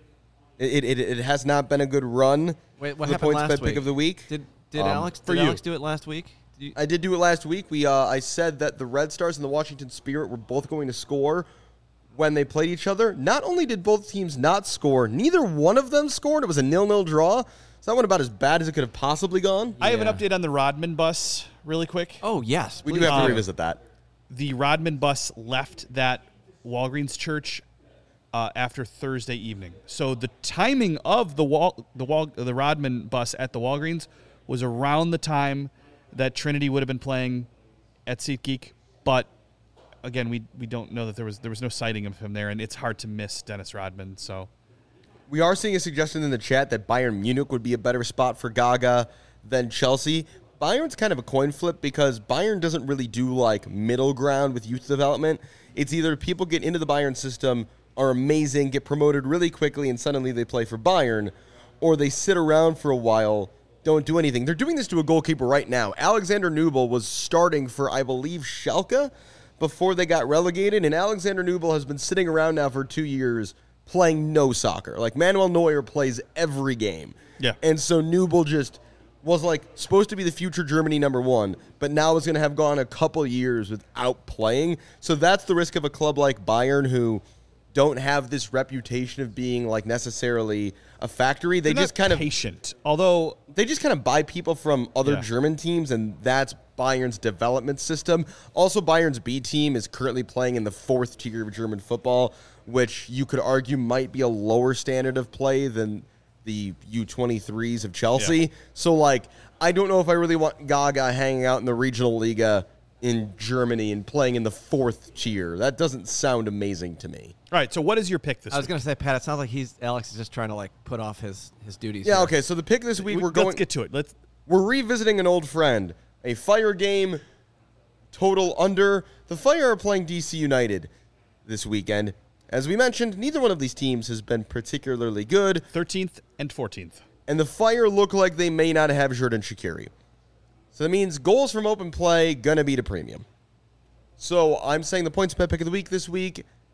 [SPEAKER 2] It has not been a good run.
[SPEAKER 3] Wait, what
[SPEAKER 2] for
[SPEAKER 3] happened
[SPEAKER 2] the
[SPEAKER 3] last
[SPEAKER 2] PointsBet
[SPEAKER 3] week?
[SPEAKER 2] pick of the week.
[SPEAKER 3] Did Alex do it last week?
[SPEAKER 2] I did do it last week. I said that the Red Stars and the Washington Spirit were both going to score when they played each other. Not only did both teams not score, neither one of them scored. It was a 0-0 draw. So that went about as bad as it could have possibly gone.
[SPEAKER 1] I have an update on the Rodman bus really quick.
[SPEAKER 3] Oh, yes.
[SPEAKER 2] We do have to revisit that.
[SPEAKER 1] The Rodman bus left that Walgreens church after Thursday evening. So the timing of the Rodman bus at the Walgreens was around the time that Trinity would have been playing at SeatGeek, but again, we don't know that there was no sighting of him there, and it's hard to miss Dennis Rodman. So
[SPEAKER 2] we are seeing a suggestion in the chat that Bayern Munich would be a better spot for Gaga than Chelsea. Bayern's kind of a coin flip because Bayern doesn't really do like middle ground with youth development. It's either people get into the Bayern system, are amazing, get promoted really quickly, and suddenly they play for Bayern, or they sit around for a while, don't do anything. They're doing this to a goalkeeper right now. Alexander Nubel was starting for, I believe, Schalke before they got relegated, and Alexander Nubel has been sitting around now for 2 years playing no soccer. Like, Manuel Neuer plays every game.
[SPEAKER 1] Yeah.
[SPEAKER 2] And so Nubel just was like supposed to be the future Germany #1, but now is going to have gone a couple years without playing. So that's the risk of a club like Bayern who don't have this reputation of being like necessarily a factory. They just kind of
[SPEAKER 1] patient. Although
[SPEAKER 2] they just kind of buy people from other German teams, and that's Bayern's development system. Also, Bayern's B team is currently playing in the 4th tier of German football, which you could argue might be a lower standard of play than the U23s of Chelsea. Yeah. So, like, I don't know if I really want Gaga hanging out in the regional Liga in Germany and playing in the 4th tier. That doesn't sound amazing to me.
[SPEAKER 1] All right, so what is your pick this week?
[SPEAKER 3] I was going to say, Pat, it sounds like Alex is just trying to, like, put off his duties.
[SPEAKER 2] Yeah,
[SPEAKER 3] here.
[SPEAKER 2] okay, so the pick this week,
[SPEAKER 1] let's get to it.
[SPEAKER 2] We're revisiting an old friend. A Fire game, total under. The Fire are playing DC United this weekend. As we mentioned, neither one of these teams has been particularly good.
[SPEAKER 1] 13th and 14th.
[SPEAKER 2] And the Fire look like they may not have Xherdan Shaqiri. So that means goals from open play, gonna be to premium. So I'm saying the PointsBet pick of the week this week,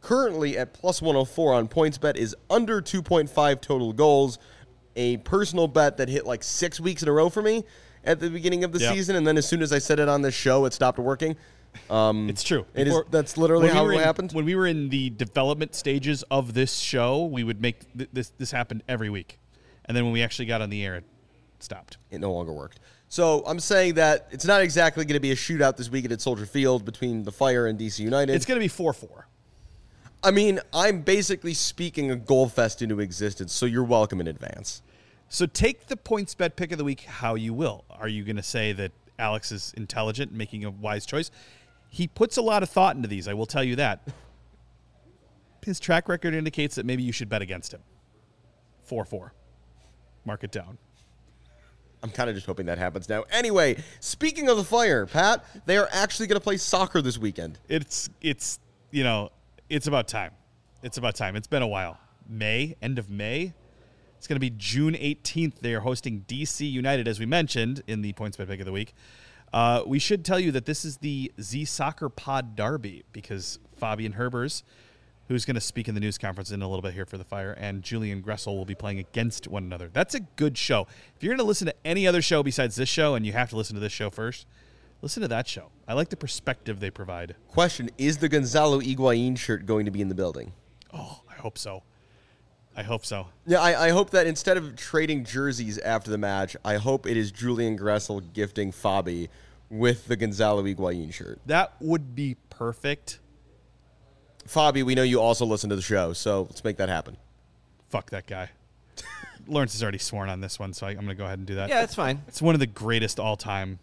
[SPEAKER 2] currently at plus 104 on PointsBet is under 2.5 total goals. A personal bet that hit like 6 weeks in a row for me at the beginning of the season, and then as soon as I said it on this show, it stopped working.
[SPEAKER 1] It's true.
[SPEAKER 2] That's literally how it happened.
[SPEAKER 1] When we were in the development stages of this show, we would make this happen every week. And then when we actually got on the air, it stopped.
[SPEAKER 2] It no longer worked. So I'm saying that it's not exactly going to be a shootout this weekend at Soldier Field between the Fire and DC United.
[SPEAKER 1] It's going to be 4-4.
[SPEAKER 2] I mean, I'm basically speaking a goal fest into existence, so you're welcome in advance.
[SPEAKER 1] So take the PointsBet pick of the week how you will. Are you going to say that Alex is intelligent, making a wise choice? He puts a lot of thought into these, I will tell you that. His track record indicates that maybe you should bet against him. 4-4. Mark it down.
[SPEAKER 2] I'm kind of just hoping that happens now. Anyway, speaking of the Fire, Pat, they are actually going to play soccer this weekend.
[SPEAKER 1] It's about time. It's about time. It's been a while. End of May. It's going to be June 18th. They are hosting DC United, as we mentioned, in the PointsBet pick of the week. We should tell you that this is the Z Soccer Pod Derby because Fabian Herbers, who's going to speak in the news conference in a little bit here for the Fire, and Julian Gressel will be playing against one another. That's a good show. If you're going to listen to any other show besides this show, and you have to listen to this show first, listen to that show. I like the perspective they provide.
[SPEAKER 2] Question, is the Gonzalo Higuain shirt going to be in the building?
[SPEAKER 1] Oh, I hope so.
[SPEAKER 2] Yeah, I hope that instead of trading jerseys after the match, I hope it is Julian Gressel gifting Fabi with the Gonzalo Higuain shirt.
[SPEAKER 1] That would be perfect.
[SPEAKER 2] Fabi, we know you also listen to the show, so let's make that happen.
[SPEAKER 1] Fuck that guy. Lawrence has already sworn on this one, so I'm going to go ahead and do that.
[SPEAKER 3] Yeah, it's fine.
[SPEAKER 1] It's one of the greatest all-time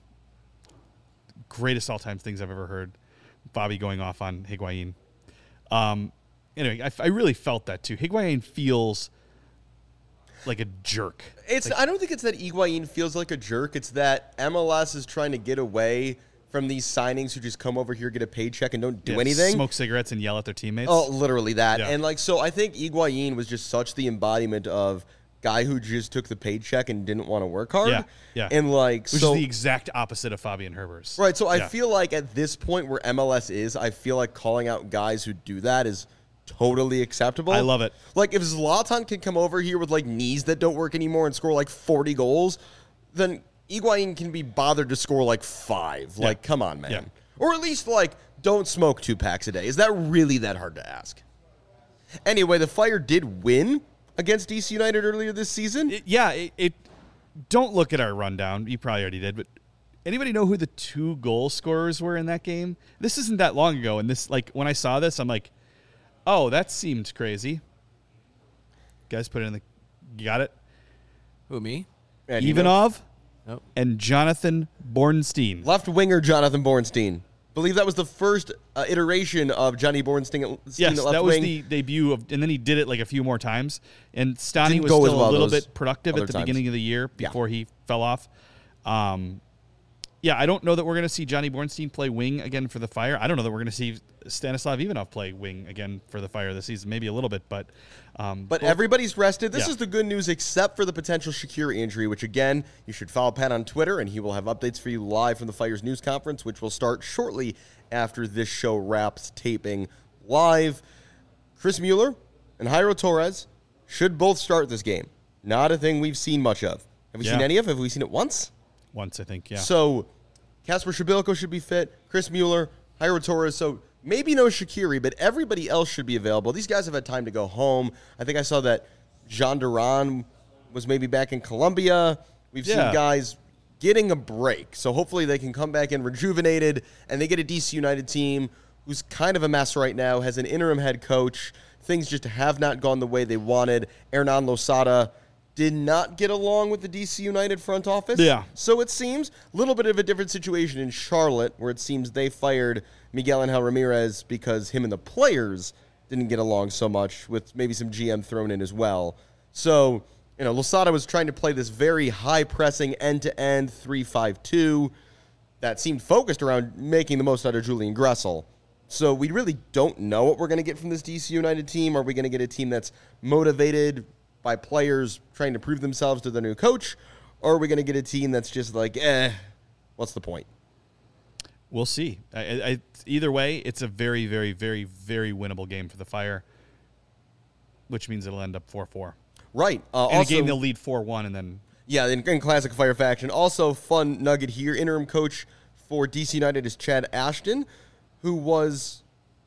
[SPEAKER 1] things I've ever heard. Fabi going off on Higuain. Anyway, I really felt that too. Higuain feels like a jerk.
[SPEAKER 2] I don't think it's that Higuain feels like a jerk. It's that MLS is trying to get away from these signings who just come over here, get a paycheck, and don't do anything.
[SPEAKER 1] Smoke cigarettes and yell at their teammates.
[SPEAKER 2] Oh, literally that.
[SPEAKER 1] Yeah.
[SPEAKER 2] And so I think Higuain was just such the embodiment of guy who just took the paycheck and didn't want to work hard.
[SPEAKER 1] Yeah.
[SPEAKER 2] And
[SPEAKER 1] which is the exact opposite of Fabian Herbers.
[SPEAKER 2] Right. So I feel like at this point where MLS is, I feel like calling out guys who do that is totally acceptable.
[SPEAKER 1] I love it.
[SPEAKER 2] Like if Zlatan can come over here with like knees that don't work anymore and score like 40 goals, then Higuain can be bothered to score like 5.
[SPEAKER 1] Yeah.
[SPEAKER 2] Like, come on, man.
[SPEAKER 1] Yeah.
[SPEAKER 2] Or at least like don't smoke 2 packs a day. Is that really that hard to ask? Anyway, the Fire did win against DC United earlier this season.
[SPEAKER 1] Don't look at our rundown. You probably already did, but anybody know who the 2 goal scorers were in that game? This isn't that long ago, and this, like, when I saw this, I'm like, oh, that seemed crazy. Guys, put it in the... You got it?
[SPEAKER 3] Who, me?
[SPEAKER 2] And
[SPEAKER 1] Ivanov
[SPEAKER 3] Nope.
[SPEAKER 1] and Jonathan Bornstein.
[SPEAKER 2] Left winger Jonathan Bornstein. Believe that was the first iteration of Johnny Bornstein at left
[SPEAKER 1] Yes, that was
[SPEAKER 2] wing.
[SPEAKER 1] the debut of, and then he did it like a few more times. And Stani
[SPEAKER 2] Didn't
[SPEAKER 1] was
[SPEAKER 2] go as
[SPEAKER 1] still
[SPEAKER 2] well
[SPEAKER 1] a little
[SPEAKER 2] those
[SPEAKER 1] bit productive
[SPEAKER 2] other
[SPEAKER 1] at the
[SPEAKER 2] times.
[SPEAKER 1] beginning of the year before he fell off. I don't know that we're going to see Johnny Bornstein play wing again for the Fire. I don't know that we're going to see Stanislav Ivanov play wing again for the Fire this season. Maybe a little bit, but
[SPEAKER 2] everybody's rested. This
[SPEAKER 1] Yeah.
[SPEAKER 2] is the good news, except for the potential Shaqiri injury, which, again, you should follow Pat on Twitter, and he will have updates for you live from the Fire's news conference, which will start shortly after this show wraps taping live. Chris Mueller and Jairo Torres should both start this game. Not a thing we've seen much of. Have we seen any of it? Have we seen it once?
[SPEAKER 1] once, I think, yeah.
[SPEAKER 2] So Kasper Shabilko should be fit, Chris Mueller, Jairo Torres. So maybe no Shaqiri, but everybody else should be available. These guys have had time to go home. I think I saw that Jean Duran was maybe back in Colombia. We've seen guys getting a break. So hopefully they can come back in rejuvenated, and they get a DC United team who's kind of a mess right now, has an interim head coach. Things just have not gone the way they wanted. Hernan Losada did not get along with the DC United front office.
[SPEAKER 1] Yeah.
[SPEAKER 2] So it seems a little bit of a different situation in Charlotte, where it seems they fired Miguel Angel Ramirez because him and the players didn't get along so much, with maybe some GM thrown in as well. So, you know, Losada was trying to play this very high-pressing, end-to-end 3-5-2 that seemed focused around making the most out of Julian Gressel. So we really don't know what we're going to get from this DC United team. Are we going to get a team that's motivated by players trying to prove themselves to their new coach? Or are we going to get a team that's just like, what's the point?
[SPEAKER 1] We'll see. Either way, it's a very, very, very, very winnable game for the Fire, which means it'll end up 4-4.
[SPEAKER 2] Right.
[SPEAKER 1] In
[SPEAKER 2] Also,
[SPEAKER 1] a game, they'll lead 4-1, and then...
[SPEAKER 2] Yeah, in classic Fire faction. Also, fun nugget here. Interim coach for DC United is Chad Ashton, who was,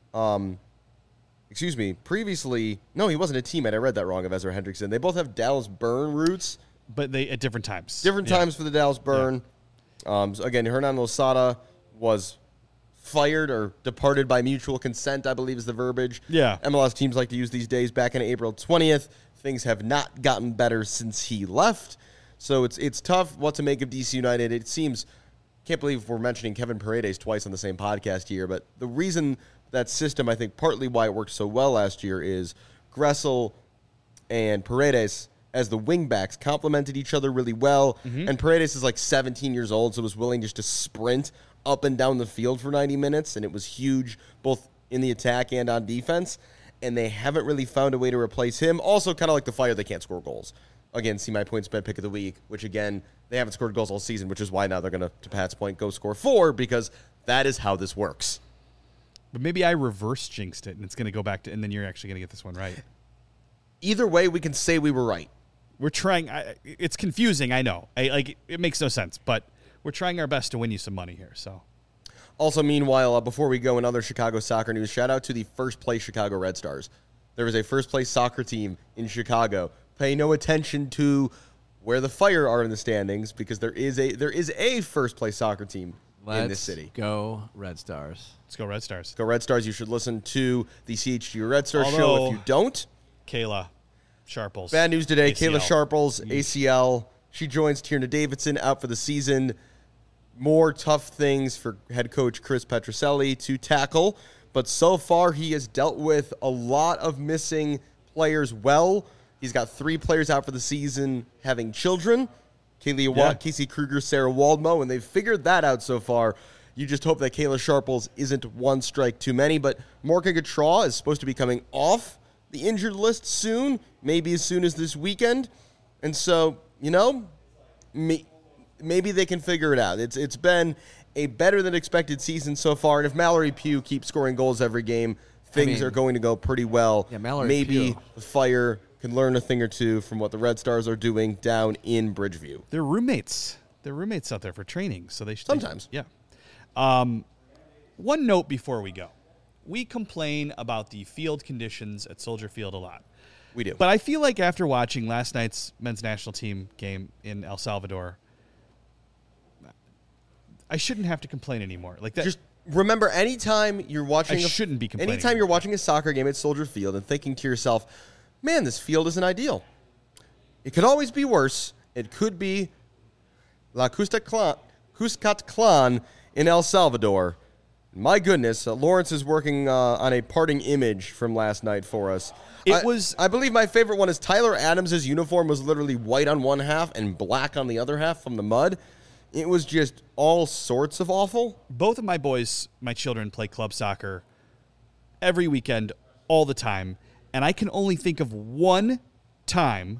[SPEAKER 2] previously... No, he wasn't a teammate. I read that wrong of Ezra Hendrickson. They both have Dallas Burn roots.
[SPEAKER 1] But they at different times.
[SPEAKER 2] Different times for the Dallas Burn. So again, Hernan Losada was fired or departed by mutual consent, I believe is the verbiage.
[SPEAKER 1] Yeah.
[SPEAKER 2] MLS teams like to use these days. Back on April 20th, things have not gotten better since he left. So it's tough what to make of DC United. It seems, can't believe we're mentioning Kevin Paredes twice on the same podcast here, but the reason that system, I think partly why it worked so well last year is Gressel and Paredes as the wingbacks complemented each other really well. Mm-hmm. And Paredes is like 17 years old, so was willing just to sprint up and down the field for 90 minutes, and it was huge both in the attack and on defense. And they haven't really found a way to replace him. Also, kind of like the Fire, they can't score goals. Again, see my point spread pick of the week, which again, they haven't scored goals all season, which is why now they're going to Pat's point, go score 4, because that is how this works.
[SPEAKER 1] But maybe I reverse jinxed it, and it's going to go back to, and then you're actually going to get this one right.
[SPEAKER 2] Either way, we can say we were right.
[SPEAKER 1] We're trying. It's confusing, I know. It makes no sense, but we're trying our best to win you some money here. So,
[SPEAKER 2] also, meanwhile, before we go, in other Chicago soccer news, shout out to the first-place Chicago Red Stars. There was a first-place soccer team in Chicago. Pay no attention to where the Fire are in the standings, because there is a first-place soccer team in this city.
[SPEAKER 3] Go Red Stars.
[SPEAKER 1] Let's go Red Stars.
[SPEAKER 2] Go Red Stars. You should listen to the CHGO Red Stars show. If you don't,
[SPEAKER 1] Kayla Sharples.
[SPEAKER 2] Bad news today.
[SPEAKER 1] ACL.
[SPEAKER 2] Kayla Sharples, ACL. She joins Tierna Davidson out for the season. More tough things for head coach Chris Petroselli to tackle. But so far, he has dealt with a lot of missing players well. He's got 3 players out for the season having children. Casey Kruger, Sarah Waldmo, and they've figured that out so far. You just hope that Kayla Sharples isn't one strike too many. But Morka Gatraw is supposed to be coming off the injured list soon, maybe as soon as this weekend. And so, maybe they can figure it out. It's been a better than expected season so far. And if Mallory Pugh keeps scoring goals every game, things are going to go pretty well.
[SPEAKER 3] Yeah, Mallory
[SPEAKER 2] maybe
[SPEAKER 3] Pugh.
[SPEAKER 2] The Fire can learn a thing or two from what the Red Stars are doing down in Bridgeview.
[SPEAKER 1] They're roommates. They're roommates out there for training, so they should.
[SPEAKER 2] Sometimes.
[SPEAKER 1] Yeah. One note before we go. We complain about the field conditions at Soldier Field a lot.
[SPEAKER 2] We do.
[SPEAKER 1] But I feel like after watching last night's men's national team game in El Salvador, I shouldn't have to complain anymore. Like that.
[SPEAKER 2] Just remember, anytime you're watching,
[SPEAKER 1] shouldn't be complaining.
[SPEAKER 2] Anytime you're watching a soccer game at Soldier Field and thinking to yourself, "Man, this field isn't ideal. It could always be worse. It could be La Cuscatlán in El Salvador." My goodness, Lawrence is working on a parting image from last night for us. I believe my favorite one is Tyler Adams' uniform was literally white on one half and black on the other half from the mud. It was just all sorts of awful.
[SPEAKER 1] Both of my boys, my children, play club soccer every weekend, all the time. And I can only think of one time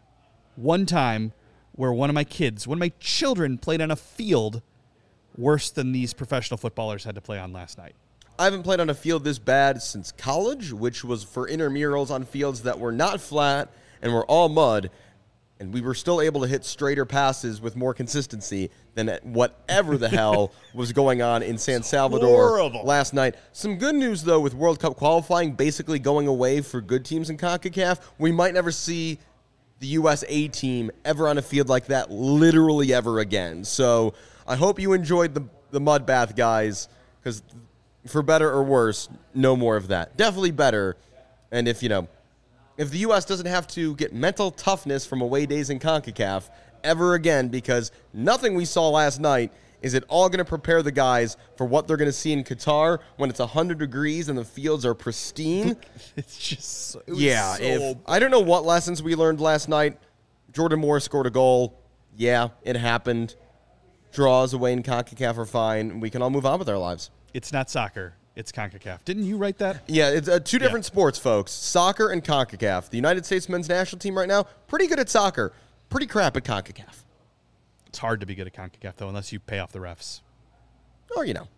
[SPEAKER 1] where one of my children played on a field worse than these professional footballers had to play on last night.
[SPEAKER 2] I haven't played on a field this bad since college, which was for intramurals on fields that were not flat and were all mud, and we were still able to hit straighter passes with more consistency than at whatever the hell was going on in San Salvador last night. Some good news, though, with World Cup qualifying basically going away for good teams in CONCACAF. We might never see the USA team ever on a field like that literally ever again. So I hope you enjoyed the mud bath, guys, because for better or worse, no more of that. Definitely better. And if the U.S. doesn't have to get mental toughness from away days in CONCACAF ever again, because nothing we saw last night is it all going to prepare the guys for what they're going to see in Qatar when it's 100 degrees and the fields are pristine.
[SPEAKER 1] It's just
[SPEAKER 2] I don't know what lessons we learned last night. Jordan Moore scored a goal. Yeah, it happened. Draws away in CONCACAF are fine. We can all move on with our lives.
[SPEAKER 1] It's not soccer. It's CONCACAF. Didn't you write that?
[SPEAKER 2] Yeah, it's two different sports, folks. Soccer and CONCACAF. The United States men's national team right now, pretty good at soccer. Pretty crap at CONCACAF.
[SPEAKER 1] It's hard to be good at CONCACAF, though, unless you pay off the refs.
[SPEAKER 2] Or,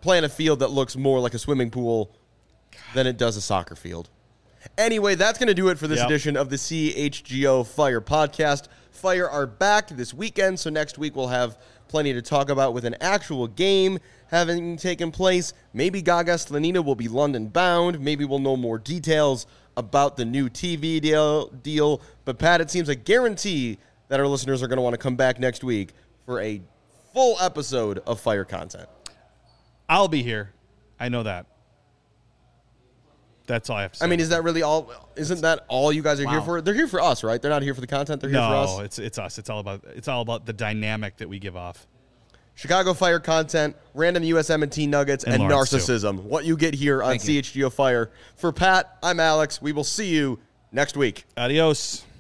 [SPEAKER 2] play in a field that looks more like a swimming pool than it does a soccer field. Anyway, that's going to do it for this edition of the CHGO Fire podcast. Fire are back this weekend, so next week we'll have plenty to talk about with an actual game having taken place. Maybe Gaga Slonina will be London bound. Maybe we'll know more details about the new TV deal. But, Pat, it seems a guarantee that our listeners are going to want to come back next week for a full episode of Fire content.
[SPEAKER 1] I'll be here. I know that. That's all I have to say.
[SPEAKER 2] I mean, is that really all? Isn't that all you guys are here for? They're here for us, right? They're not here for the content. They're here for us.
[SPEAKER 1] No, it's us. It's all about the dynamic that we give off.
[SPEAKER 2] Chicago Fire content, random USM&T nuggets, and narcissism. Too. What you get here on CHGO Fire. For Pat, I'm Alex. We will see you next week.
[SPEAKER 1] Adios.